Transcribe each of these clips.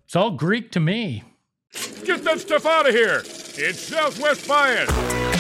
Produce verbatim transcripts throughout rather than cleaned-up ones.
It's all Greek to me. Get that stuff out of here. It's Southwest Bias.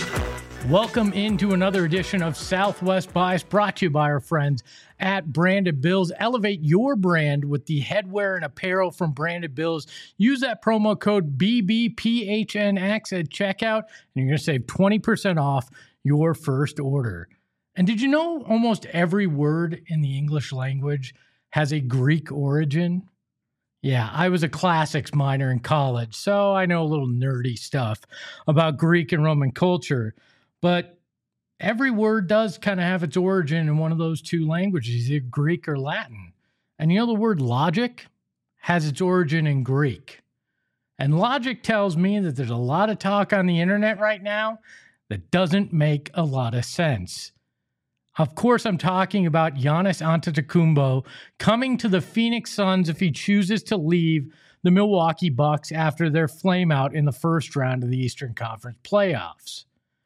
Welcome into another edition of Southwest Bias, brought to you by our friends at Branded Bills. Elevate your brand with the headwear and apparel from Branded Bills. Use that promo code B B P H N X at checkout, and you're going to save twenty percent off your first order. And did you know almost every word in the English language has a Greek origin? Yeah, I was a classics minor in college, so I know a little nerdy stuff about Greek and Roman culture. But every word does kind of have its origin in one of those two languages, either Greek or Latin. And you know the word logic has its origin in Greek. And logic tells me that there's a lot of talk on the internet right now that doesn't make a lot of sense. Of course, I'm talking about Giannis Antetokounmpo coming to the Phoenix Suns if he chooses to leave the Milwaukee Bucks after their flameout in the first round of the Eastern Conference playoffs.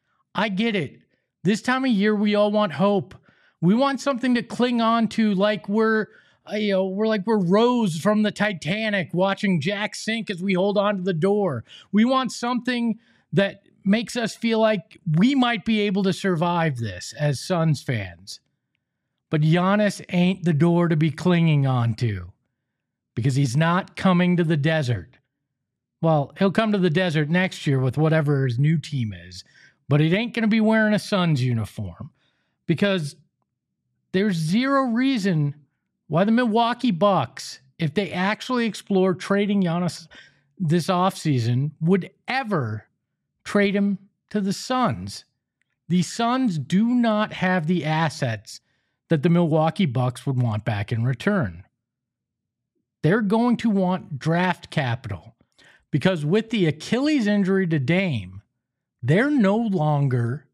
I get it. This time of year, we all want hope. We want something to cling on to, like we're, you know, we're like we're Rose from the Titanic watching Jack sink as we hold on to the door. We want something that makes us feel like we might be able to survive this as Suns fans. But Giannis ain't the door to be clinging on to, because he's not coming to the desert. Well, he'll come to the desert next year with whatever his new team is, but it ain't going to be wearing a Suns uniform, because there's zero reason why the Milwaukee Bucks, if they actually explore trading Giannis this offseason, would ever trade him to the Suns. The Suns do not have the assets that the Milwaukee Bucks would want back in return. They're going to want draft capital, because with the Achilles injury to Dame, they're no longer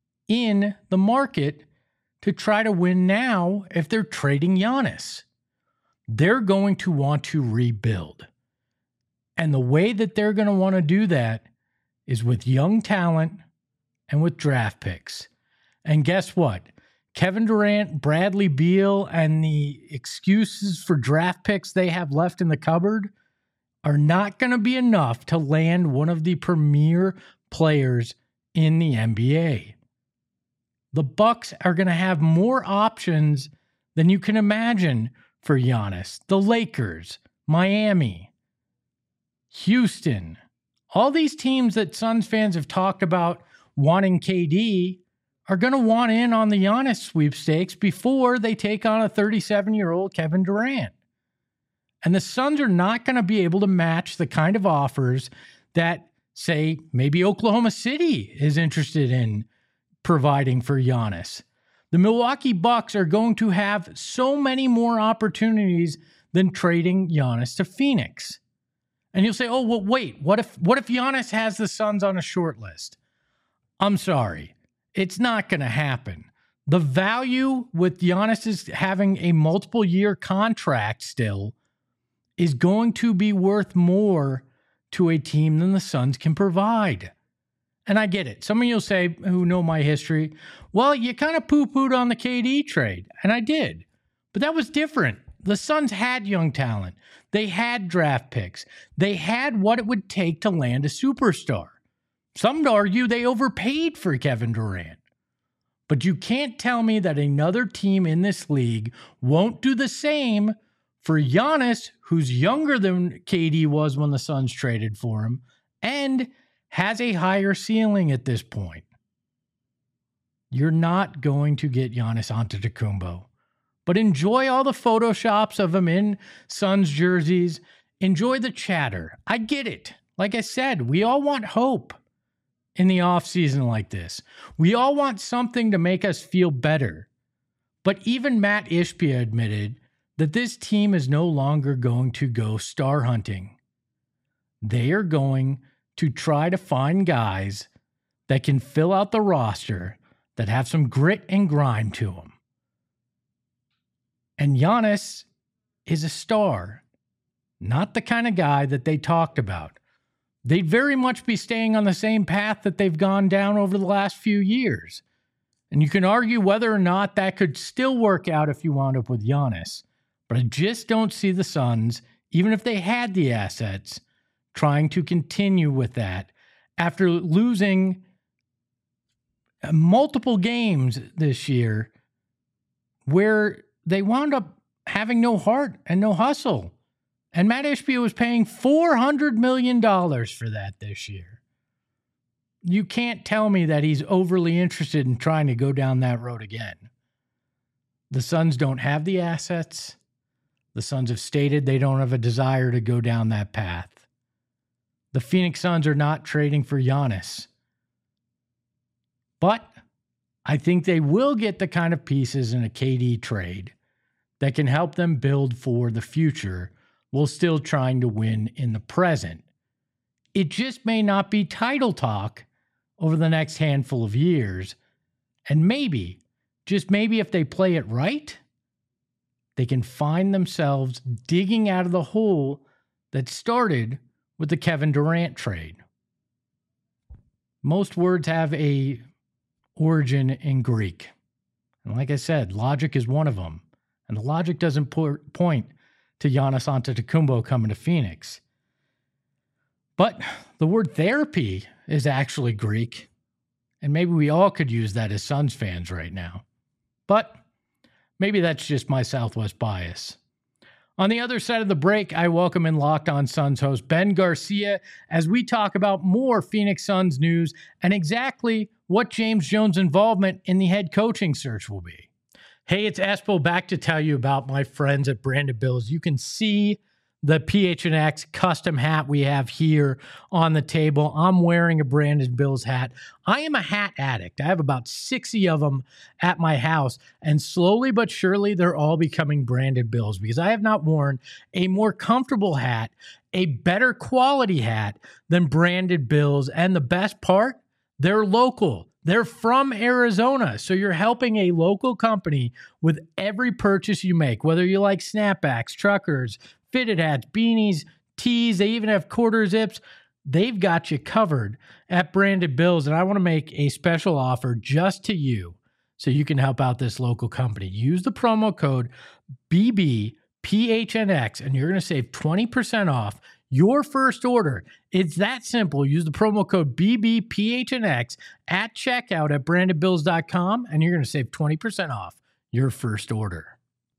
in the market to try to win now if they're trading Giannis. They're going to want to rebuild. And the way that they're going to want to do that is with young talent and with draft picks. And guess what? Kevin Durant, Bradley Beal, and the excuses for draft picks they have left in the cupboard are not going to be enough to land one of the premier players in the N B A. The Bucks are going to have more options than you can imagine for Giannis. The Lakers, Miami, Houston, all these teams that Suns fans have talked about wanting K D are going to want in on the Giannis sweepstakes before they take on a thirty-seven-year-old Kevin Durant. And the Suns are not going to be able to match the kind of offers that, say, maybe Oklahoma City is interested in providing for Giannis. The Milwaukee Bucks are going to have so many more opportunities than trading Giannis to Phoenix. And you'll say, oh, well, wait, what if what if Giannis has the Suns on a short list? I'm sorry. It's not going to happen. The value with Giannis is having a multiple year contract still is going to be worth more to a team than the Suns can provide. And I get it. Some of you will say, who know my history, well, you kind of poo-pooed on the K D trade. And I did. But that was different. The Suns had young talent. They had draft picks. They had what it would take to land a superstar. Some would argue they overpaid for Kevin Durant. But you can't tell me that another team in this league won't do the same for Giannis, who's younger than K D was when the Suns traded for him, and has a higher ceiling at this point. You're not going to get Giannis Antetokounmpo. But enjoy all the photoshops of him in Suns jerseys. Enjoy the chatter. I get it. Like I said, we all want hope in the offseason like this. We all want something to make us feel better. But even Matt Ishbia admitted that this team is no longer going to go star hunting. They are going to try to find guys that can fill out the roster, that have some grit and grime to them. And Giannis is a star, not the kind of guy that they talked about. They'd very much be staying on the same path that they've gone down over the last few years. And you can argue whether or not that could still work out if you wound up with Giannis. But I just don't see the Suns even if they had the assets, trying to continue with that after losing multiple games this year where they wound up having no heart and no hustle. And Matt Ishbia was paying four hundred million dollars for that this year. You can't tell me that he's overly interested in trying to go down that road again. The Suns don't have the assets. The Suns have stated they don't have a desire to go down that path. The Phoenix Suns are not trading for Giannis. But I think they will get the kind of pieces in a K D trade that can help them build for the future while still trying to win in the present. It just may not be title talk over the next handful of years. And maybe, just maybe if they play it right, they can find themselves digging out of the hole that started with the Kevin Durant trade. Most words have a origin in Greek. And like I said, logic is one of them. And the logic doesn't po- point to Giannis Antetokounmpo coming to Phoenix. But the word therapy is actually Greek. And maybe we all could use that as Suns fans right now. But maybe that's just my Southwest bias. On the other side of the break, I welcome in Locked On Suns host Ben Garcia as we talk about more Phoenix Suns news and exactly what James Jones' involvement in the head coaching search will be. Hey, it's Espo back to tell you about my friends at Branded Bills. You can see the P H N X custom hat we have here on the table. I'm wearing a Branded Bills hat. I am a hat addict. I have about sixty of them at my house, and slowly but surely they're all becoming Branded Bills because I have not worn a more comfortable hat, a better quality hat than Branded Bills. And the best part, they're local. They're from Arizona, so you're helping a local company with every purchase you make, whether you like snapbacks, truckers, fitted hats, beanies, tees. They even have quarter zips. They've got you covered at Branded Bills, and I want to make a special offer just to you so you can help out this local company. Use the promo code B B P H N X, and you're going to save twenty percent off your first order. It's that simple. Use the promo code B B P H N X at checkout at branded bills dot com, and you're going to save twenty percent off your first order.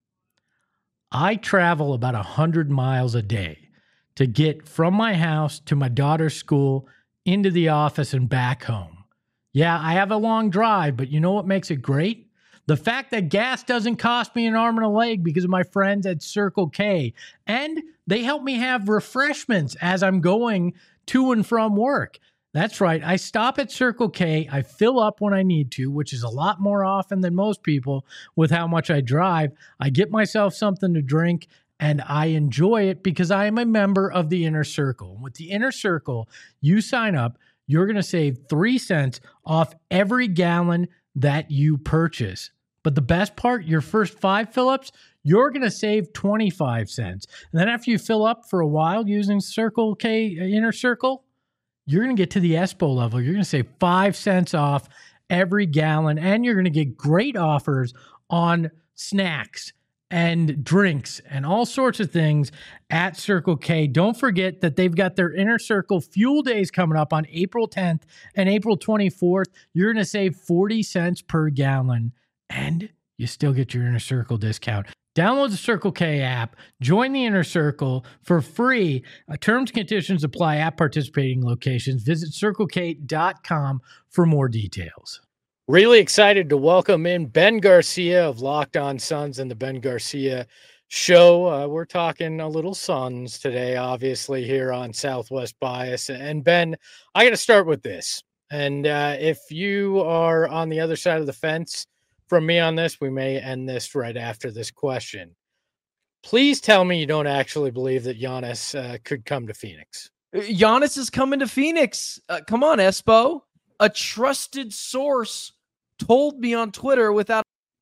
I travel about one hundred miles a day to get from my house to my daughter's school, into the office, and back home. Yeah, I have a long drive, but you know what makes it great? The fact that gas doesn't cost me an arm and a leg because of my friends at Circle K. And they help me have refreshments as I'm going to and from work. That's right. I stop at Circle K. I fill up when I need to, which is a lot more often than most people with how much I drive. I get myself something to drink, and I enjoy it because I am a member of the Inner Circle. With the Inner Circle, you sign up, you're going to save three cents off every gallon that you purchase. But the best part, your first five fill-ups, you're going to save twenty-five cents. And then after you fill up for a while using Circle K Inner Circle, you're going to get to the Espo level. You're going to save five cents off every gallon, and you're going to get great offers on snacks and drinks and all sorts of things at Circle K. Don't forget that they've got their Inner Circle Fuel Days coming up on April tenth and April twenty-fourth. You're going to save forty cents per gallon, and you still get your Inner Circle discount. Download the Circle K app, join the Inner Circle for free. Uh, terms and conditions apply at participating locations. Visit circle k dot com for more details. Really excited to welcome in Ben Garcia of Locked On Suns and the Ben Garcia Show. Uh, we're talking a little Suns today, obviously, here on Southwest Bias. And Ben, I got to start with this. And uh, if you are on the other side of the fence from me on this, we may end this right after this question. Please tell me you don't actually believe that Giannis uh, could come to Phoenix. Giannis is coming to Phoenix. Uh, come on, Espo. A trusted source told me on Twitter without.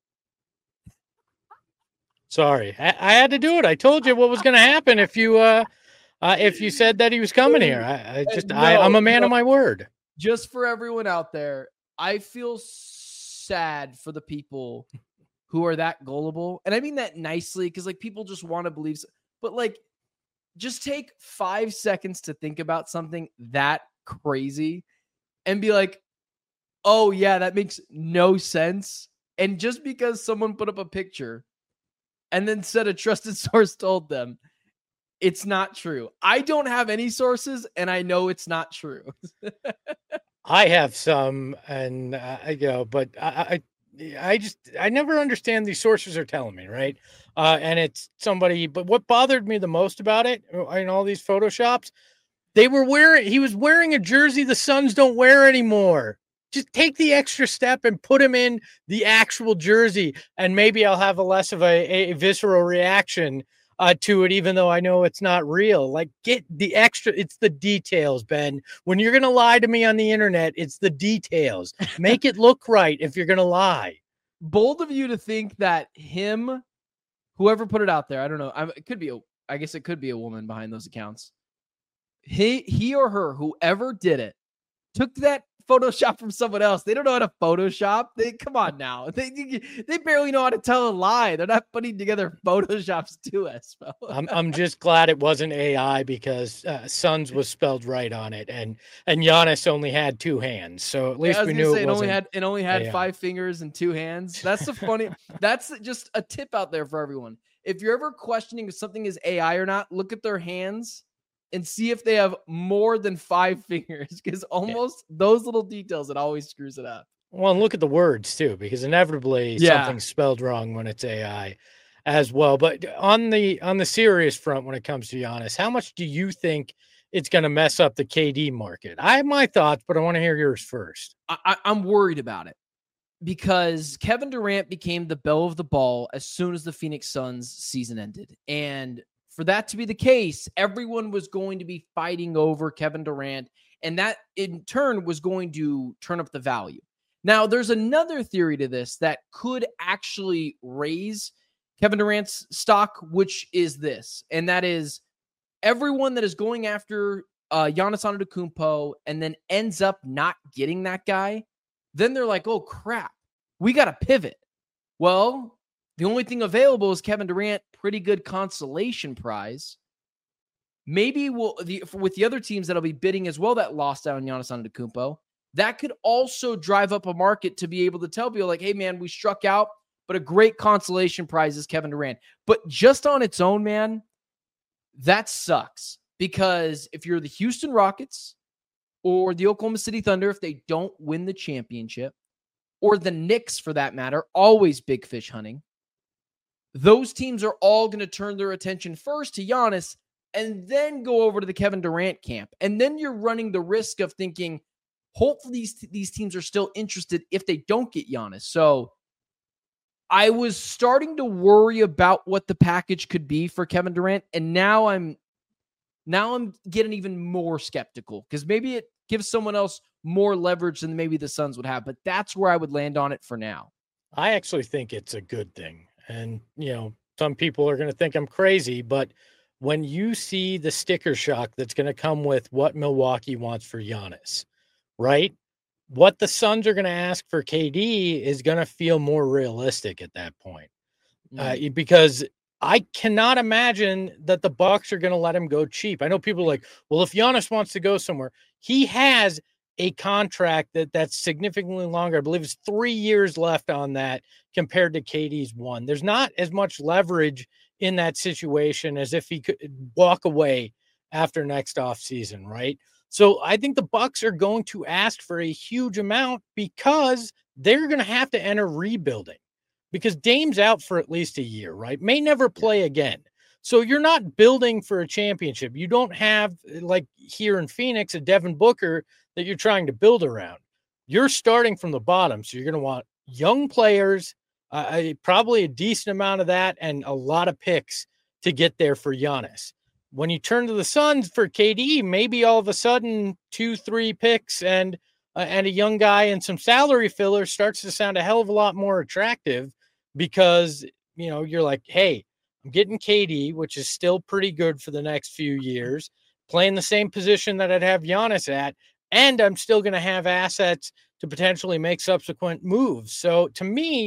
Sorry, I, I had to do it. I told you what was going to happen if you uh, uh, if you said that he was coming here. I, I just no, I, I'm a man no. of my word. Just for everyone out there, I feel sad for the people who are that gullible, and I mean that nicely because like people just want to believe. But like, just take five seconds to think about something that crazy and be like, oh yeah, that makes no sense. And just because someone put up a picture and then said a trusted source told them, it's not true. I don't have any sources, and I know it's not true. I have some, and uh, you know, but I, I, I just I never understand these sources are telling me, right? Uh, and it's somebody. But what bothered me the most about it in all these photoshops, they were wearing. He was wearing a jersey the Suns don't wear anymore. Just take the extra step and put him in the actual jersey, and maybe I'll have a less of a, a visceral reaction uh, to it, even though I know it's not real. Like, get the extra. It's the details, Ben. When you're going to lie to me on the internet, it's the details. Make it look right if you're going to lie. Bold of you to think that him, whoever put it out there, I don't know. I, it could be, a, I guess it could be a woman behind those accounts. He, he or her, whoever did it, took that Photoshop from someone else. They don't know how to Photoshop. They come on now. They they barely know how to tell a lie. They're not putting together Photoshops to us. I'm I'm just glad it wasn't A I because uh, Suns was spelled right on it, and and Giannis only had two hands, so at least yeah, we knew say, it, it wasn't only had it only had A I. five fingers and two hands. That's the funny. That's just a tip out there for everyone. If you're ever questioning if something is A I or not, look at their hands and see if they have more than five fingers, because almost yeah. those little details, it always screws it up. Well, and look at the words too, because inevitably yeah. something's spelled wrong when it's A I as well. But on the on the serious front, when it comes to Giannis, how much do you think it's going to mess up the K D market? I have my thoughts, but I want to hear yours first. I, I'm worried about it because Kevin Durant became the belle of the ball as soon as the Phoenix Suns season ended. And for that to be the case, everyone was going to be fighting over Kevin Durant, and that in turn was going to turn up the value. Now, there's another theory to this that could actually raise Kevin Durant's stock, which is this, and that is everyone that is going after uh, Giannis Antetokounmpo and then ends up not getting that guy, then they're like, oh, crap, we got to pivot. Well, the only thing available is Kevin Durant, pretty good consolation prize. Maybe we'll the, with the other teams that'll be bidding as well that lost out on Giannis Antetokounmpo, that could also drive up a market to be able to tell people like, hey, man, we struck out, but a great consolation prize is Kevin Durant. But just on its own, man, that sucks. Because if you're the Houston Rockets or the Oklahoma City Thunder, if they don't win the championship, or the Knicks for that matter, always big fish hunting, those teams are all going to turn their attention first to Giannis and then go over to the Kevin Durant camp. And then you're running the risk of thinking, hopefully these, these teams are still interested if they don't get Giannis. So I was starting to worry about what the package could be for Kevin Durant. And now I'm, now I'm getting even more skeptical because maybe it gives someone else more leverage than maybe the Suns would have. But that's where I would land on it for now. I actually think it's a good thing. And, you know, some people are going to think I'm crazy, but when you see the sticker shock that's going to come with what Milwaukee wants for Giannis, right? What the Suns are going to ask for K D is going to feel more realistic at that point. Mm. Uh, because I cannot imagine that the Bucks are going to let him go cheap. I know people are like, well, if Giannis wants to go somewhere, he has a contract that that's significantly longer. I believe it's three years left on that compared to K D's one. There's not as much leverage in that situation as if he could walk away after next offseason, right? So I think the Bucks are going to ask for a huge amount because they're going to have to enter rebuilding because Dame's out for at least a year, right? May never play again. So you're not building for a championship. You don't have, like here in Phoenix, a Devin Booker that you're trying to build around. You're starting from the bottom. So you're going to want young players, uh, probably a decent amount of that, and a lot of picks to get there for Giannis. When you turn to the Suns for K D, maybe all of a sudden two, three picks and uh, and a young guy and some salary filler starts to sound a hell of a lot more attractive because, you know, you're like, hey, I'm getting K D, which is still pretty good for the next few years, playing the same position that I'd have Giannis at, and I'm still going to have assets to potentially make subsequent moves. So to me,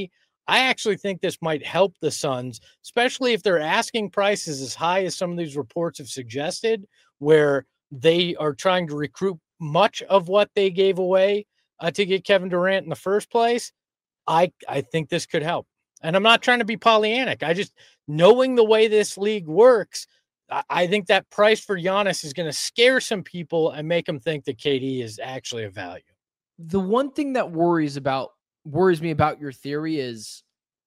I actually think this might help the Suns, especially if they're asking prices as high as some of these reports have suggested, where they are trying to recruit much of what they gave away uh, to get Kevin Durant in the first place. I, I think this could help. And I'm not trying to be Pollyannic. I just, knowing the way this league works, I, I think that price for Giannis is going to scare some people and make them think that K D is actually a value. The one thing that worries about worries me about your theory is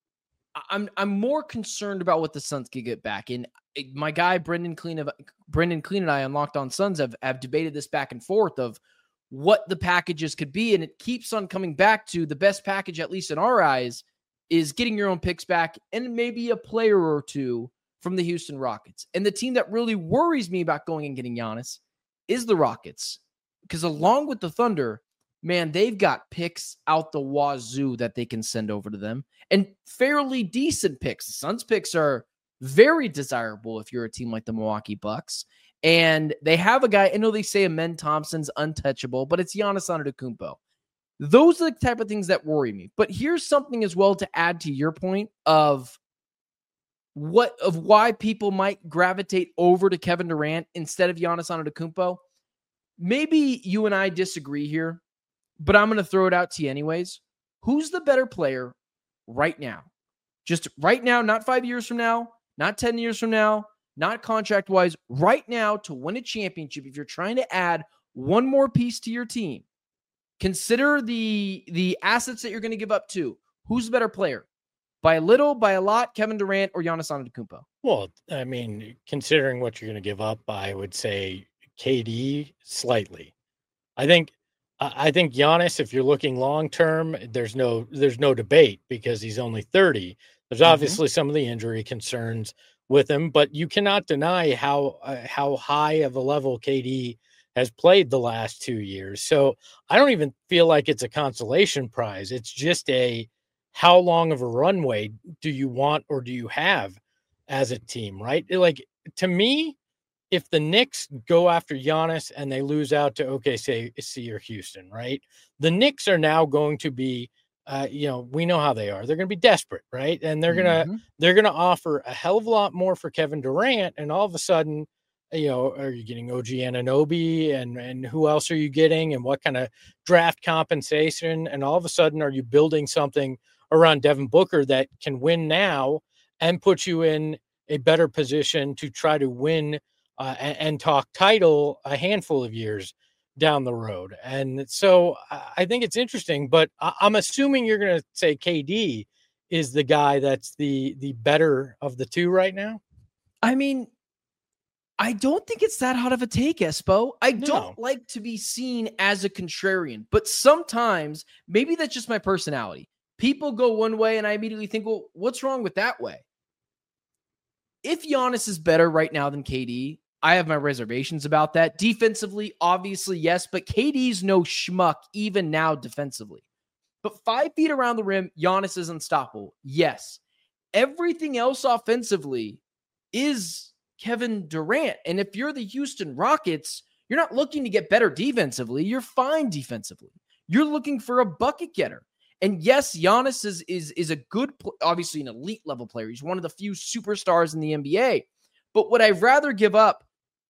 I'm I'm more concerned about what the Suns could get back. And my guy Brendan Clean of Brendan Clean and I on Locked On Suns have, have debated this back and forth of what the packages could be, and it keeps on coming back to the best package, at least in our eyes, is getting your own picks back and maybe a player or two from the Houston Rockets. And the team that really worries me about going and getting Giannis is the Rockets, because along with the Thunder, man, they've got picks out the wazoo that they can send over to them, and fairly decent picks. The Suns picks are very desirable if you're a team like the Milwaukee Bucks. And they have a guy, I know they say Amen Thompson's untouchable, but it's Giannis Antetokounmpo. Those are the type of things that worry me. But here's something as well to add to your point of what of why people might gravitate over to Kevin Durant instead of Giannis Antetokounmpo. Maybe you and I disagree here, but I'm going to throw it out to you anyways. Who's the better player right now? Just right now, not five years from now, not ten years from now, not contract-wise, right now to win a championship. If you're trying to add one more piece to your team, consider the, the assets that you're going to give up to. Who's the better player? By a little, by a lot, Kevin Durant or Giannis Antetokounmpo? Well, I mean, considering what you're going to give up, I would say K D slightly. I think I think Giannis, if you're looking long-term, there's no there's no debate because he's only thirty. There's obviously mm-hmm. some of the injury concerns with him, but you cannot deny how uh, how high of a level K D has played the last two years. So I don't even feel like it's a consolation prize. It's just a how long of a runway do you want or do you have as a team, right? Like, to me, if the Knicks go after Giannis and they lose out to O K C or Houston, right? The Knicks are now going to be Uh, you know, we know how they are. They're going to be desperate, right? And they're going to mm-hmm. they're going to offer a hell of a lot more for Kevin Durant. And all of a sudden, you know, are you getting O G Anunoby and and who else are you getting? And what kind of draft compensation? And all of a sudden, are you building something around Devin Booker that can win now and put you in a better position to try to win uh, and, and talk title a handful of years down the road? And so I think it's interesting, but I'm assuming you're going to say K D is the guy that's the the better of the two right now. I mean, I don't think it's that hot of a take, Espo. I No. don't like to be seen as a contrarian, but sometimes maybe that's just my personality. People go one way and I immediately think, well, what's wrong with that way? If Giannis is better right now than K D, I have my reservations about that. Defensively, obviously, yes, but K D's no schmuck even now defensively. But five feet around the rim, Giannis is unstoppable. Yes. Everything else offensively is Kevin Durant. And if you're the Houston Rockets, you're not looking to get better defensively. You're fine defensively. You're looking for a bucket getter. And yes, Giannis is, is, is a good, obviously an elite level player. He's one of the few superstars in the N B A. But would I rather give up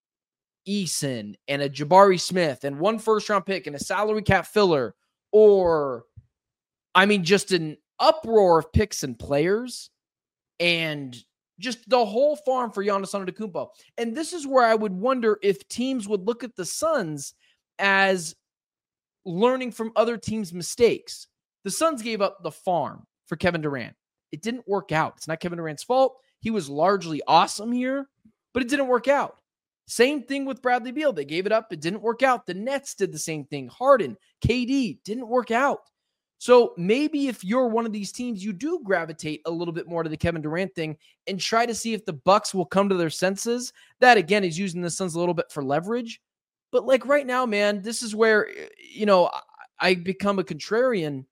Eason and a Jabari Smith and one first round pick and a salary cap filler, or I mean, just an uproar of picks and players and just the whole farm for Giannis Antetokounmpo? And this is where I would wonder if teams would look at the Suns as learning from other teams' mistakes. The Suns gave up the farm for Kevin Durant. It didn't work out. It's not Kevin Durant's fault. He was largely awesome here, but it didn't work out. Same thing with Bradley Beal. They gave it up. It didn't work out. The Nets did the same thing. Harden, K D, didn't work out. So maybe if you're one of these teams, you do gravitate a little bit more to the Kevin Durant thing and try to see if the Bucks will come to their senses. That, again, is using the Suns a little bit for leverage. But like right now, man, this is where, you know, I become a contrarian.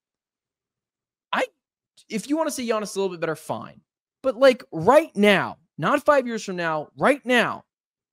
I, if you want to say Giannis a little bit better, fine. But like right now, not five years from now, right now,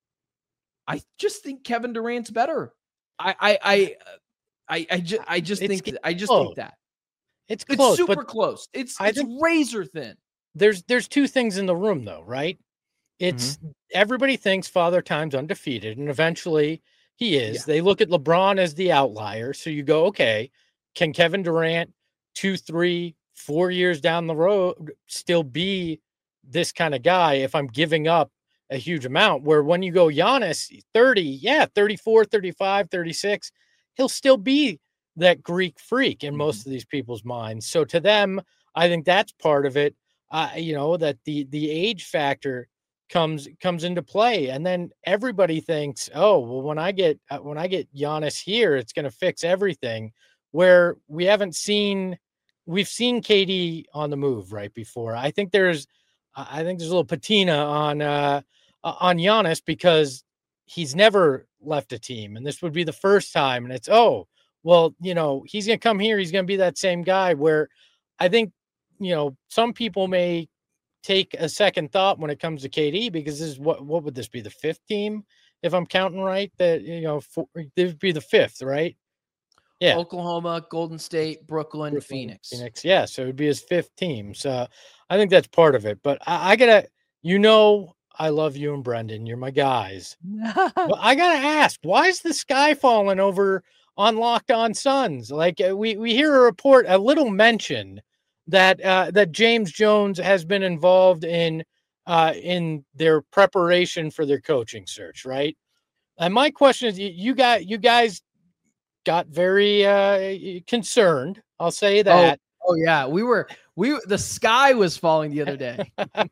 I just think Kevin Durant's better. I, I, I, I, I, ju- I just It's think, I just close. think that. It's close. It's super but close. It's I it's think razor thin. there's there's two things in the room though, right? It's Mm-hmm. everybody thinks Father Time's undefeated, and eventually he is. Yeah. They look at LeBron as the outlier. So you go, okay, can Kevin Durant two, three, four years down the road still be this kind of guy if I'm giving up a huge amount? Where when you go Giannis, thirty, yeah, thirty-four, thirty-five, thirty-six, he'll still be that Greek freak in most Mm-hmm. of these people's minds. So to them, I think that's part of it. Uh, you know, that the the age factor comes comes into play, and then everybody thinks, oh well, when I get uh, when I get Giannis here, it's going to fix everything. Where we haven't seen, we've seen K D on the move right before. I think there's, I think there's a little patina on uh, on Giannis because he's never left a team, and this would be the first time. And it's oh well, you know, he's going to come here, he's going to be that same guy. Where I think, you know, some people may take a second thought when it comes to K D because this is what what would this be, the fifth team if I'm counting right? That, you know, for, this would be the fifth, right? Yeah, Oklahoma, Golden State, Brooklyn, Brooklyn, Phoenix. Phoenix. Yeah, so it would be his fifth team. So I think that's part of it. But I, I gotta, you know, I love you and Brendan. You're my guys. But I gotta ask, why is the sky falling over on Locked On Suns? Like uh, we we hear a report, a little mention that uh, that James Jones has been involved in uh, in their preparation for their coaching search, right? And my question is, you, you got you guys got very uh, concerned. I'll say that. Oh, oh yeah, we were we the sky was falling the other day.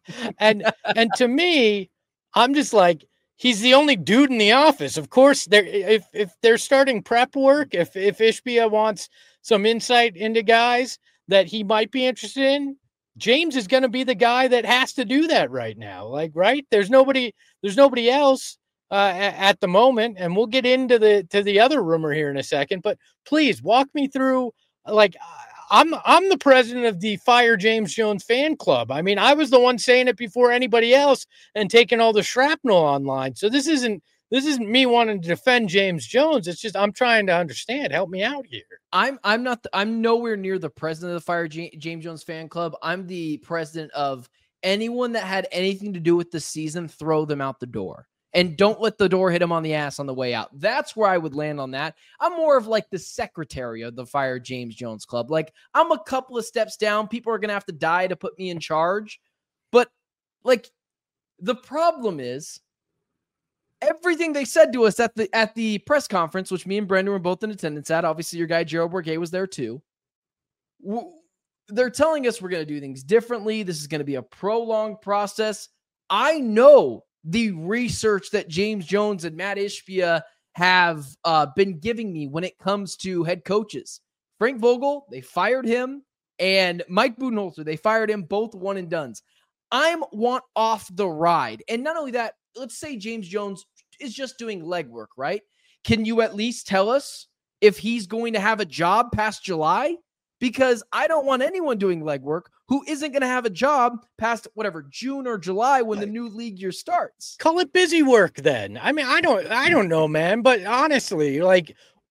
and and to me, I'm just like, he's the only dude in the office. Of course, they're if if they're starting prep work, if if Ishbia wants some insight into guys that he might be interested in, James is going to be the guy that has to do that right now. Like, right? There's nobody. There's nobody else uh, at the moment, and we'll get into the to the other rumor here in a second. But please walk me through. Like, I'm I'm the president of the Fire James Jones fan club. I mean, I was the one saying it before anybody else and taking all the shrapnel online. So this isn't this isn't me wanting to defend James Jones. It's just I'm trying to understand. Help me out here. I'm I'm not the, I'm nowhere near the president of the Fire J- James Jones fan club. I'm the president of anyone that had anything to do with the season. Throw them out the door. And don't let the door hit him on the ass on the way out. That's where I would land on that. I'm more of like the secretary of the Fire James Jones Club. Like, I'm a couple of steps down. People are going to have to die to put me in charge. But, like, the problem is everything they said to us at the at the press conference, which me and Brendan were both in attendance at. Obviously, your guy, Gerald Bourguet, was there too. They're telling us we're going to do things differently. This is going to be a prolonged process. I know the research that James Jones and Matt Ishbia have uh, been giving me when it comes to head coaches. Frank Vogel, they fired him, and Mike Budenholzer, they fired him, both one and dones. I'm want off the ride. And not only that, let's say James Jones is just doing legwork, right? Can you at least tell us if he's going to have a job past July? Because I don't want anyone doing legwork who isn't going to have a job past whatever June or July when the new league year starts. Call it busy work then. I mean, I don't I don't know, man, but honestly, like,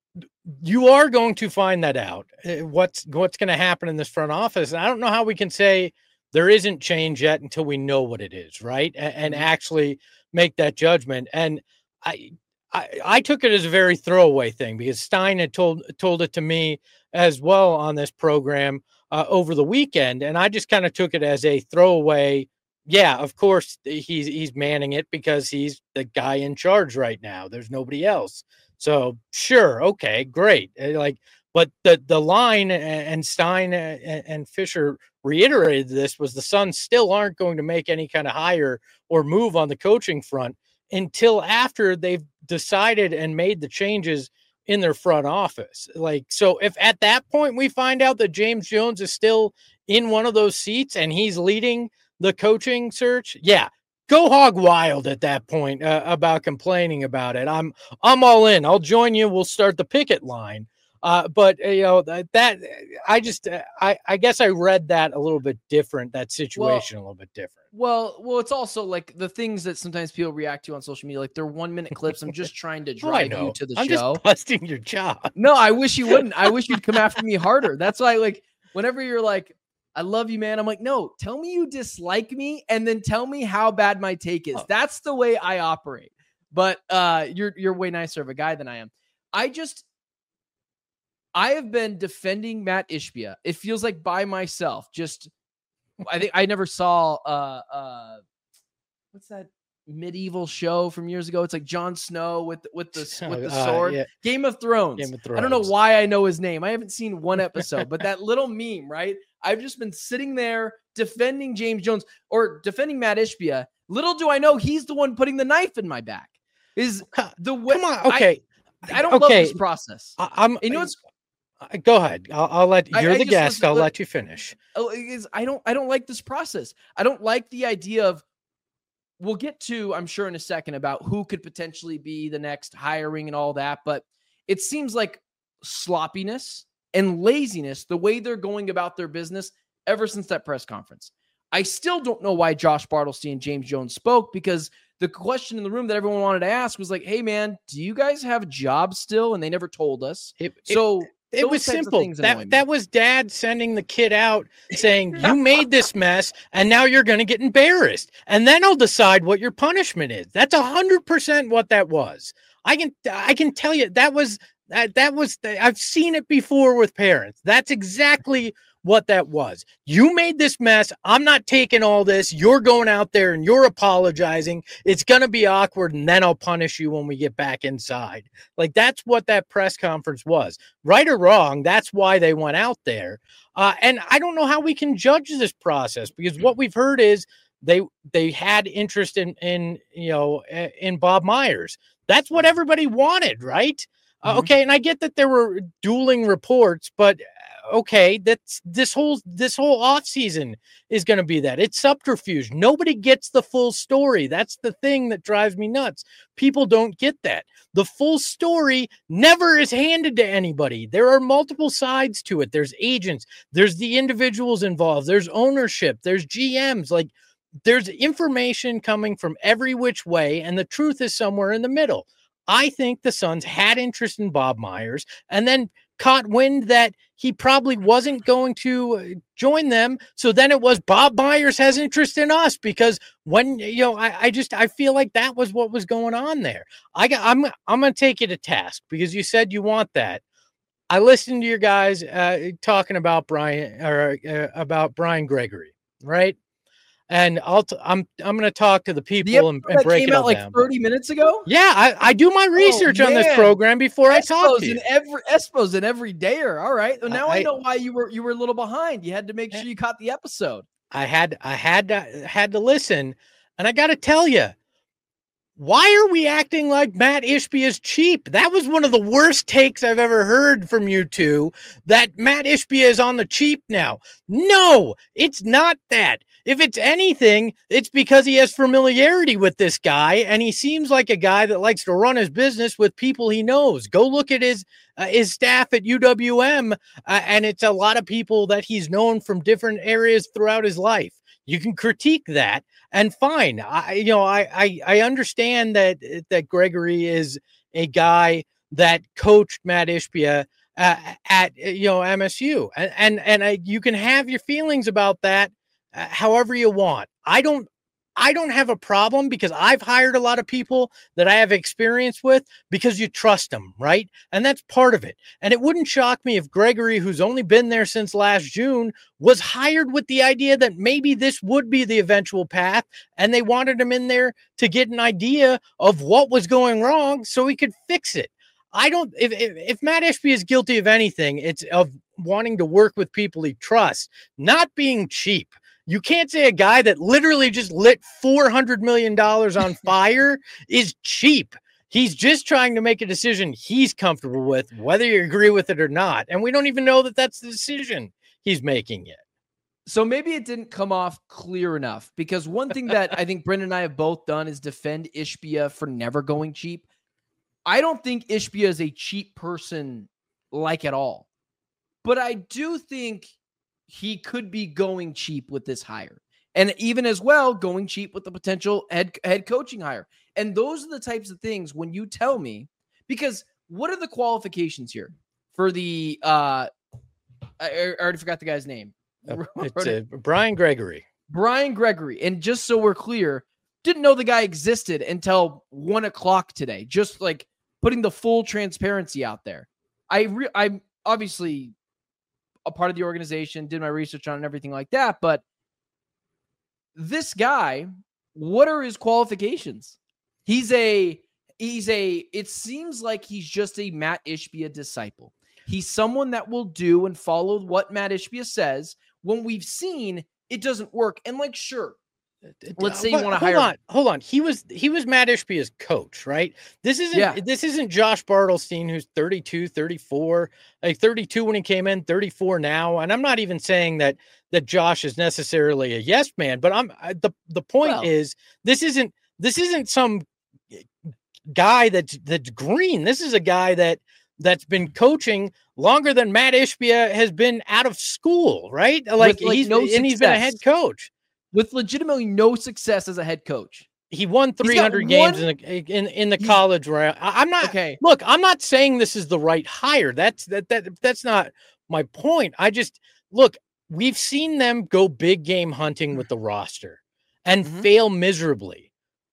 you are going to find that out. What's what's going to happen in this front office. And I don't know how we can say there isn't change yet until we know what it is, right? And, and actually make that judgment. And I I, I took it as a very throwaway thing because Stein had told told it to me as well on this program uh, over the weekend, and I just kind of took it as a throwaway. Yeah, of course he's he's manning it because he's the guy in charge right now. There's nobody else. So sure, okay, great. Like, but the the line and Stein and Fisher reiterated this was the Suns still aren't going to make any kind of hire or move on the coaching front until after they've decided and made the changes in their front office. Like, so if at that point we find out that James Jones is still in one of those seats and he's leading the coaching search, yeah, go hog wild at that point uh, about complaining about it. I'm, I'm all in. I'll join you. We'll start the picket line. Uh, but uh, you know, that, that I just, uh, I, I guess I read that a little bit different, that situation well, a little bit different. Well, well, it's also like the things that sometimes people react to on social media, like they're one minute clips. I'm just trying to drive oh, you to the I'm show. Just busting your job. No, I wish you wouldn't. I wish you'd come after me harder. That's why, like, whenever you're like, I love you, man. I'm like, no, tell me you dislike me and then tell me how bad my take is. Oh. That's the way I operate. But uh, you're you're way nicer of a guy than I am. I just, I have been defending Matt Ishbia. It feels like by myself. Just, I think I never saw, uh, uh, what's that medieval show from years ago? It's like Jon Snow with with the with the Uh, sword. yeah. Game of Thrones. Game of I don't know Thrones. why I know his name. I haven't seen one episode, but that little meme, right? I've just been sitting there defending James Jones or defending Matt Ishbia. Little do I know he's the one putting the knife in my back. Is the way? Come on, okay. I, I don't okay. love this process. I, I'm. And you know what's I- Go ahead. I'll, I'll let I- you're I the just guest. listen- I'll look- let you finish. Oh, is I don't I don't like this process. I don't like the idea of we'll get to, I'm sure in a second, about who could potentially be the next hiring and all that, but it seems like sloppiness and laziness the way they're going about their business ever since that press conference. I still don't know why Josh Bartlesty and James Jones spoke, because the question in the room that everyone wanted to ask was like, hey man, do you guys have jobs still? And they never told us. It, it- So It those was types of simple. things annoy me. That that was dad sending the kid out saying, you made this mess and now you're going to get embarrassed. And then I'll decide what your punishment is. That's a hundred percent what that was. I can, I can tell you that was, that, that was, I've seen it before with parents. That's exactly what that was. You made this mess. I'm not taking all this. You're going out there and you're apologizing. It's going to be awkward. And then I'll punish you when we get back inside. Like, that's what that press conference was. Right or wrong, that's why they went out there. Uh, and I don't know how we can judge this process, because what we've heard is they they had interest in, in you know, in Bob Myers. That's what everybody wanted, right? Mm-hmm. Uh, okay, and I get that there were dueling reports, but okay, that's this whole this whole off season is going to be that. It's subterfuge. Nobody gets the full story. That's the thing that drives me nuts. People don't get that. The full story never is handed to anybody. There are multiple sides to it. There's agents, there's the individuals involved, there's ownership, there's G Ms. Like, there's information coming from every which way, and the truth is somewhere in the middle. I think the Suns had interest in Bob Myers and then caught wind that he probably wasn't going to join them. So then it was Bob Myers has interest in us, because when, you know, I, I just, I feel like that was what was going on there. I got, I'm, I'm going to take you to task because you said you want that. I listened to your guys uh, talking about Brian or uh, about Brian Gregory, right? And I'll t- I'm I'm going to talk to the people The and, episode and that break came it all out like down. thirty minutes ago. Yeah, I, I do my research on this man. program before I talk to Espos you. in every Espos in every dayer. All right. Well, now I, I- know why you were you were a little behind. You had to make sure you caught the episode. I had I had to had to listen, and I got to tell you, why are we acting like Matt Ishbia is cheap? That was one of the worst takes I've ever heard from you two. That Matt Ishbia is on the cheap now. No, it's not that. If it's anything, it's because he has familiarity with this guy, and he seems like a guy that likes to run his business with people he knows. Go look at his uh, his staff at U W M, uh, and it's a lot of people that he's known from different areas throughout his life. You can critique that, and fine. I, you know, I, I, I understand that that Gregory is a guy that coached Matt Ishbia uh, at you know M S U, and and and I, you can have your feelings about that uh, however you want. I don't. I don't have a problem because I've hired a lot of people that I have experience with because you trust them, right? And that's part of it. And it wouldn't shock me if Gregory, who's only been there since last June, was hired with the idea that maybe this would be the eventual path, and they wanted him in there to get an idea of what was going wrong so he could fix it. I don't, if, if, if Matt Ishbia is guilty of anything, it's of wanting to work with people he trusts, not being cheap. You can't say a guy that literally just lit four hundred million dollars on fire is cheap. He's just trying to make a decision he's comfortable with, whether you agree with it or not. And we don't even know that that's the decision he's making yet. So maybe it didn't come off clear enough, because one thing that I think Brendan and I have both done is defend Ishbia for never going cheap. I don't think Ishbia is a cheap person like at all, but I do think he could be going cheap with this hire, and even as well going cheap with the potential head head coaching hire. And those are the types of things when you tell me, because what are the qualifications here for the uh I, I already forgot the guy's name. Uh, it's uh, Brian Gregory. Brian Gregory. And just so we're clear, didn't know the guy existed until one o'clock today. Just like putting the full transparency out there. I re- I'm obviously a part of the organization, did my research on it and everything like that. But this guy, what are his qualifications? He's a, he's a, it seems like he's just a Matt Ishbia disciple. He's someone that will do and follow what Matt Ishbia says when we've seen it doesn't work. And like, sure, let's say you want to hire. Hold on, hold on. He was he was Matt Ishbia's coach, right? This isn't Yeah. this isn't Josh Bartelstein, who's thirty-two, thirty-four, like thirty-two when he came in, thirty-four now. And I'm not even saying that that Josh is necessarily a yes man, but I'm I, the the point Well- is this isn't this isn't some guy that's that's green. This is a guy that that's been coaching longer than Matt Ishbia has been out of school, right? Like, With, like, he's no and he's been a head success. coach. With legitimately no success as a head coach. He won got three hundred games one- in the in, in the He's- college round. I- I'm not Okay. look, I'm not saying this is the right hire. That's that that that's not my point. I just look, we've seen them go big game hunting with the roster and Mhm. fail miserably.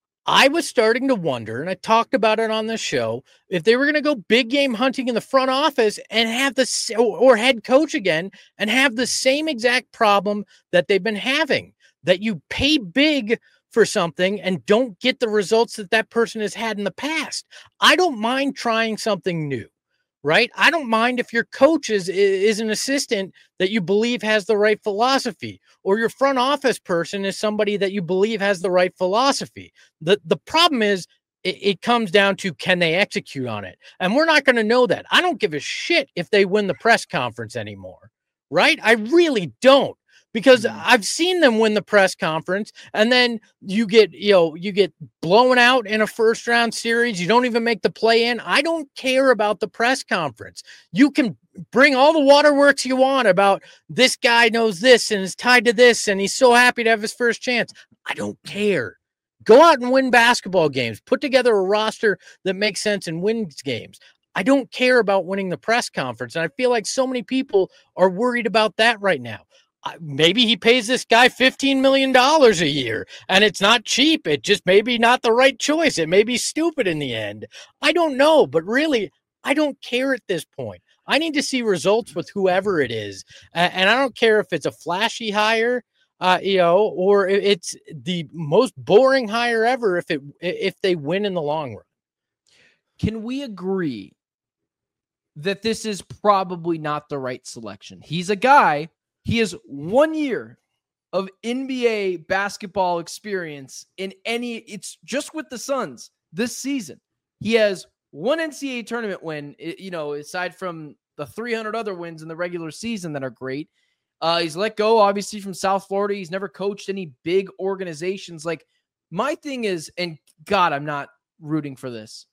I was starting to wonder, and I talked about it on the show, if they were going to go big game hunting in the front office and have the s- or, or head coach again and have the same exact problem that they've been having, that you pay big for something and don't get the results that that person has had in the past. I don't mind trying something new, right? I don't mind if your coach is, is an assistant that you believe has the right philosophy, or your front office person is somebody that you believe has the right philosophy. The, the problem is it, it comes down to, can they execute on it? And we're not going to know that. I don't give a shit if they win the press conference anymore, right? I really don't. Because Mhm. I've seen them win the press conference, and then you get, you know, you get blown out in a first round series. You don't even make the play in. I don't care about the press conference. You can bring all the waterworks you want about this guy knows this and is tied to this, and he's so happy to have his first chance. I don't care. Go out and win basketball games. Put together a roster that makes sense and wins games. I don't care about winning the press conference. And I feel like so many people are worried about that right now. Uh, maybe he pays this guy fifteen million dollars a year and it's not cheap. It just may be not the right choice. It may be stupid in the end. I don't know, but really, I don't care at this point. I need to see results with whoever it is. Uh, and I don't care if it's a flashy hire, uh, you know, or it's the most boring hire ever if it if they win in the long run. Can we agree that this is probably not the right selection? He's a guy, he has one year of N B A basketball experience in any, it's just with the Suns this season. He has one N C A A tournament win, you know, aside from the three hundred other wins in the regular season that are great. Uh, he's let go, obviously, from South Florida. He's never coached any big organizations. Like, my thing is, and God, I'm not rooting for this.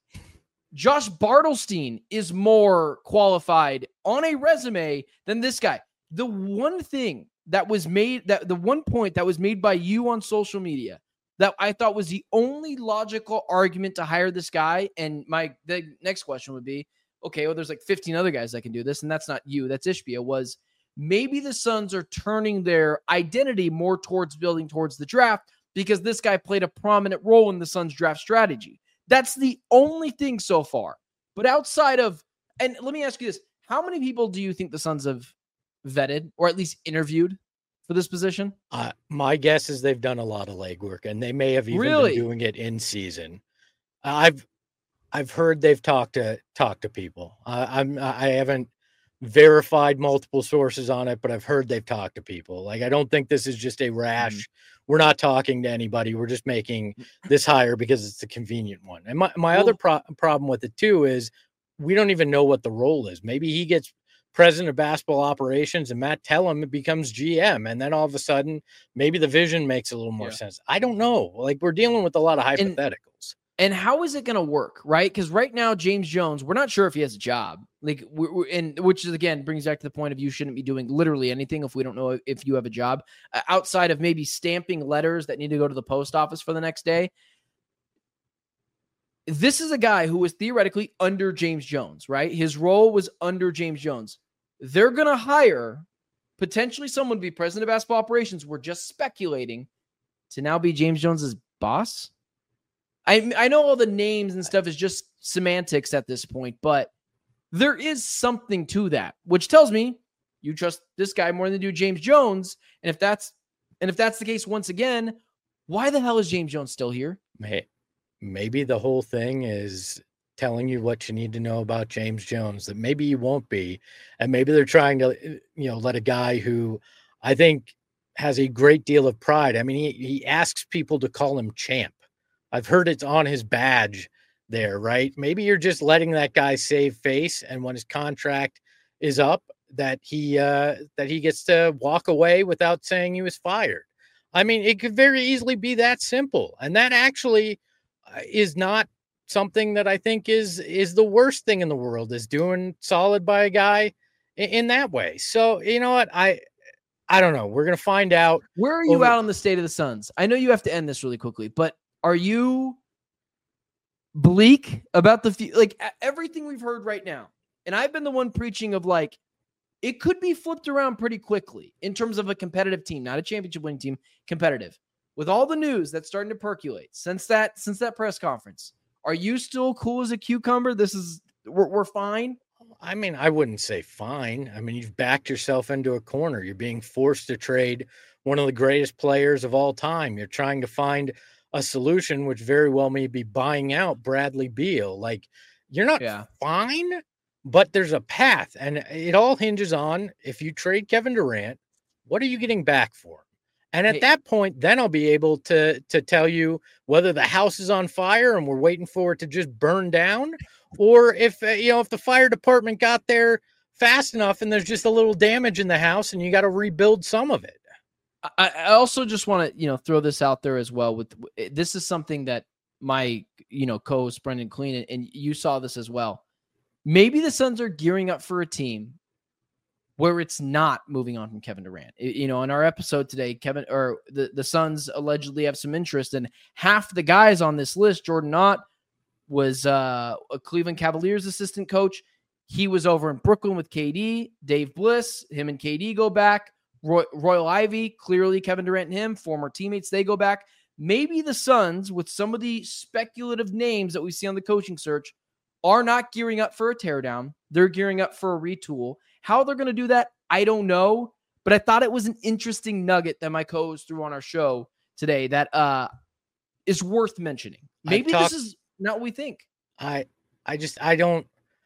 Josh Bartelstein is more qualified on a resume than this guy. The one thing that was made, that the one point that was made by you on social media that I thought was the only logical argument to hire this guy, and my the next question would be, okay, well, there's like fifteen other guys that can do this, and that's not you, that's Ishbia, was maybe the Suns are turning their identity more towards building towards the draft because this guy played a prominent role in the Suns draft strategy. That's the only thing so far. But outside of, and let me ask you this, how many people do you think the Suns have vetted or at least interviewed for this position? Uh, my guess is they've done a lot of legwork, and they may have even Really? been doing it in season. I've I've heard they've talked to talked to people. Uh, I'm I haven't verified multiple sources on it, but I've heard they've talked to people. Like, I don't think this is just a rash. Mm-hmm. We're not talking to anybody. We're just making this hire because it's the convenient one. And my, my well, other pro- problem with it too is we don't even know what the role is. Maybe he gets president of basketball operations and Matt Tellem becomes G M. And then all of a sudden, maybe the vision makes a little more yeah. sense. I don't know. Like, we're dealing with a lot of hypotheticals. And, and how is it going to work? Right. Cause right now, James Jones, we're not sure if he has a job, like, we're, we're, and which is, again, brings back to the point of you shouldn't be doing literally anything if we don't know if you have a job uh, outside of maybe stamping letters that need to go to the post office for the next day. This is a guy who was theoretically under James Jones, right? His role was under James Jones. they're going to hire potentially someone to be president of basketball operations. We're just speculating to now be James Jones's boss. I I know all the names and stuff is just semantics at this point, but there is something to that, which tells me you trust this guy more than you do James Jones. And if that's and if that's the case, once again, why the hell is James Jones still here? Maybe the whole thing is telling you what you need to know about James Jones, that maybe you won't be. And maybe they're trying to, you know, let a guy who I think has a great deal of pride. I mean, he, he asks people to call him champ. I've heard it's on his badge there, right? Maybe you're just letting that guy save face, and when his contract is up, that he uh, that he gets to walk away without saying he was fired. I mean, it could very easily be that simple, and that actually is not something that I think is is the worst thing in the world, is doing solid by a guy in, in that way. So you know what, I I don't know. We're gonna find out. Where are you over- out on the state of the Suns? I know you have to end this really quickly, but are you bleak about the few, like everything we've heard right now? And I've been the one preaching of like, it could be flipped around pretty quickly in terms of a competitive team, not a championship winning team, competitive. With all the news that's starting to percolate since that since that press conference, are you still cool as a cucumber? This is we're, we're fine. I mean, I wouldn't say fine. I mean, you've backed yourself into a corner. You're being forced to trade one of the greatest players of all time. You're trying to find a solution, which very well may be buying out Bradley Beal. Like, you're not Yeah. fine, but there's a path, and it all hinges on, if you trade Kevin Durant, what are you getting back for him? And at Hey. that point, then I'll be able to to tell you whether the house is on fire and we're waiting for it to just burn down, or if uh, you know if the fire department got there fast enough and there's just a little damage in the house and you got to rebuild some of it. I, I also just want to, you know, throw this out there as well. With this is something that my, you know, co-host Brendan Clean, and, and you saw this as well. Maybe the Suns are gearing up for a team where it's not moving on from Kevin Durant. It- you know, in our episode today, Kevin or the, the Suns allegedly have some interest, and half the guys on this list, Jordan Knott was uh, a Cleveland Cavaliers assistant coach. He was over in Brooklyn with K D, Dave Bliss, him and K D go back. Roy, Royal Ivy, clearly Kevin Durant and him, former teammates, they go back. Maybe the Suns, with some of the speculative names that we see on the coaching search, are not gearing up for a teardown. They're gearing up for a retool. How they're going to do that, I don't know. But I thought it was an interesting nugget that my co-host threw on our show today that uh, is worth mentioning. Maybe talked- this is not what we think. I I just I don't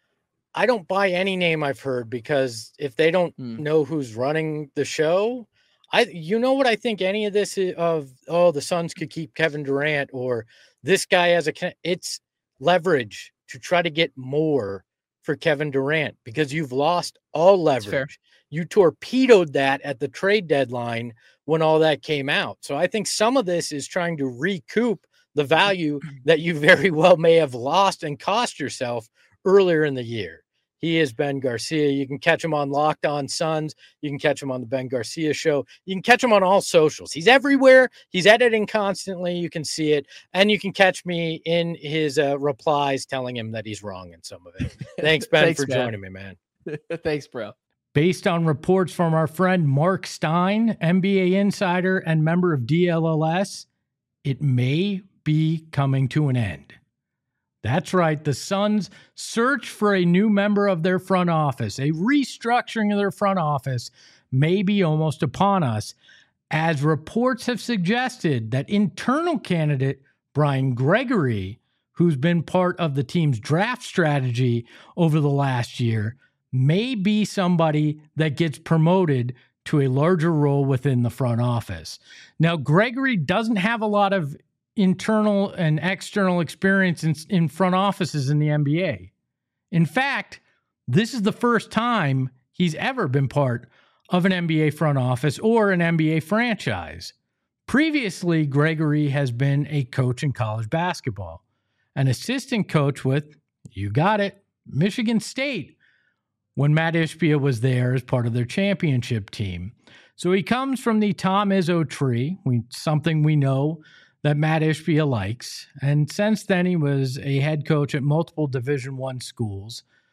I don't buy any name I've heard, because if they don't Hmm. know who's running the show, I you know what I think any of this is of, oh, the Suns could keep Kevin Durant, or this guy has a con- it's leverage to try to get more for Kevin Durant, because you've lost all fair. leverage. You torpedoed that at the trade deadline when all that came out. So I think some of this is trying to recoup the value that you very well may have lost and cost yourself earlier in the year. He is Ben Garcia. You can catch him on Locked On Suns. You can catch him on the Ben Garcia Show. You can catch him on all socials. He's everywhere. He's editing constantly. You can see it. And you can catch me in his uh, replies telling him that he's wrong in some of it. Thanks, Ben, Thanks, for man. joining me, man. Thanks, bro. Based on reports from our friend Mark Stein, N B A insider and member of D L L S, it may be coming to an end. That's right. The Suns search for a new member of their front office. A restructuring of their front office may be almost upon us, as reports have suggested that internal candidate Brian Gregory, who's been part of the team's draft strategy over the last year, may be somebody that gets promoted to a larger role within the front office. Now, Gregory doesn't have a lot of internal and external experience in, in front offices in the N B A. In fact, this is the first time he's ever been part of an N B A front office or an N B A franchise. Previously, Gregory has been a coach in college basketball, an assistant coach with, you got it, Michigan State, when Matt Ishbia was there as part of their championship team. So he comes from the Tom Izzo tree, we, something we know that Matt Ishbia likes. And since then, he was a head coach at multiple Division One schools.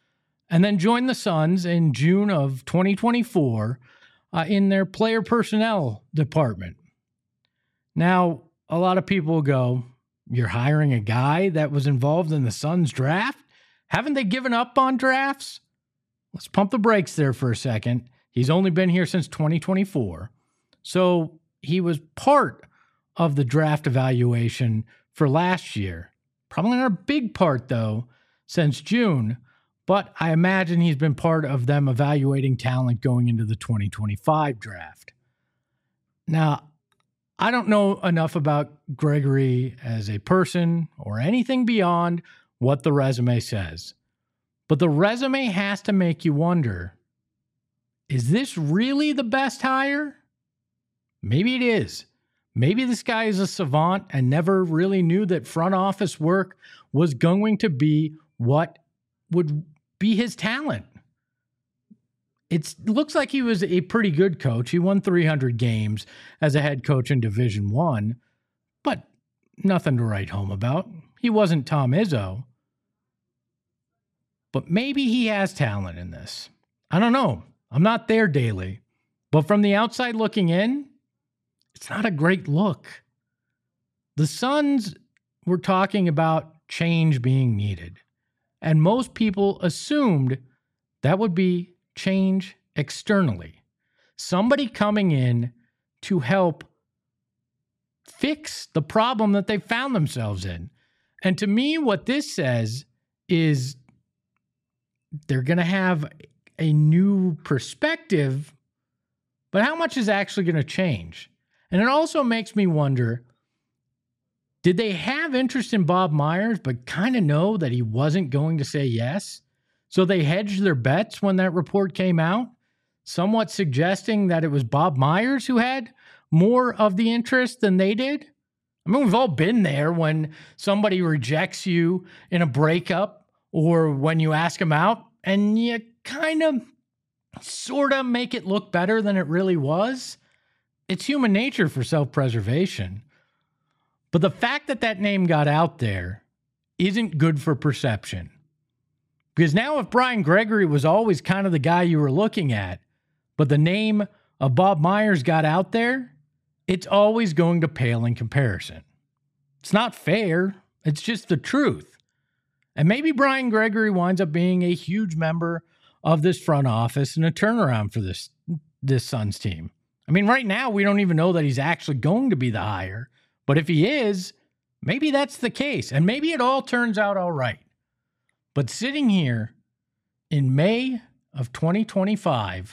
and then joined the Suns in June of twenty twenty-four uh, in their player personnel department. Now, a lot of people go, you're hiring a guy that was involved in the Suns draft? Haven't they given up on drafts? Let's pump the brakes there for a second. He's only been here since twenty twenty-four. So he was part of the draft evaluation for last year. Probably not a big part, though, since June. But I imagine he's been part of them evaluating talent going into the twenty twenty-five draft. Now, I don't know enough about Gregory as a person or anything beyond what the resume says. But the resume has to make you wonder, is this really the best hire? Maybe it is. Maybe this guy is a savant and never really knew that front office work was going to be what would be his talent. It looks like he was a pretty good coach. He won three hundred games as a head coach in Division One, but nothing to write home about. He wasn't Tom Izzo. But maybe he has talent in this. I don't know. I'm not there daily. But from the outside looking in, it's not a great look. The Suns were talking about change being needed. And most people assumed that would be change externally. Somebody coming in to help fix the problem that they found themselves in. And to me, what this says is they're going to have a new perspective, but how much is actually going to change? And it also makes me wonder, did they have interest in Bob Myers, but kind of know that he wasn't going to say yes? So they hedged their bets when that report came out, somewhat suggesting that it was Bob Myers who had more of the interest than they did. I mean, we've all been there when somebody rejects you in a breakup or when you ask them out and you kind of sort of make it look better than it really was. It's human nature for self-preservation. But the fact that that name got out there isn't good for perception. Because now if Brian Gregory was always kind of the guy you were looking at, but the name of Bob Myers got out there, it's always going to pale in comparison. It's not fair. It's just the truth. And maybe Brian Gregory winds up being a huge member of this front office and a turnaround for this, this Suns team. I mean, right now, we don't even know that he's actually going to be the hire. But if he is, maybe that's the case. And maybe it all turns out all right. But sitting here in May of twenty twenty-five,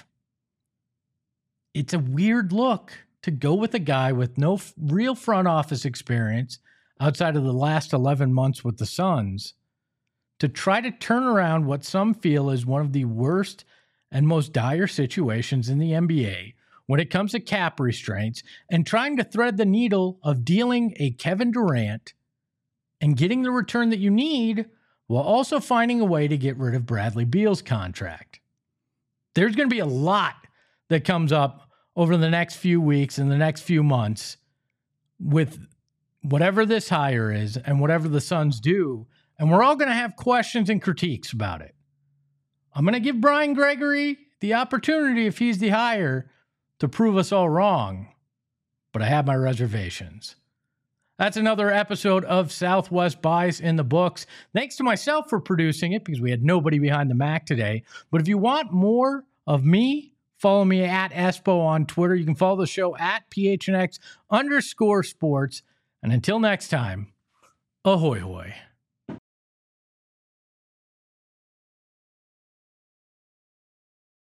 it's a weird look to go with a guy with no f- real front office experience outside of the last eleven months with the Suns to try to turn around what some feel is one of the worst and most dire situations in the N B A when it comes to cap restraints and trying to thread the needle of dealing a Kevin Durant and getting the return that you need while also finding a way to get rid of Bradley Beal's contract. There's going to be a lot that comes up over the next few weeks and the next few months with whatever this hire is and whatever the Suns do, and we're all going to have questions and critiques about it. I'm going to give Brian Gregory the opportunity, if he's the hire, to prove us all wrong, but I have my reservations. That's another episode of Southwest Bias in the books. Thanks to myself for producing it because we had nobody behind the Mac today. But if you want more of me, follow me at Espo on Twitter. You can follow the show at PHNX underscore sports. And until next time, ahoy hoy.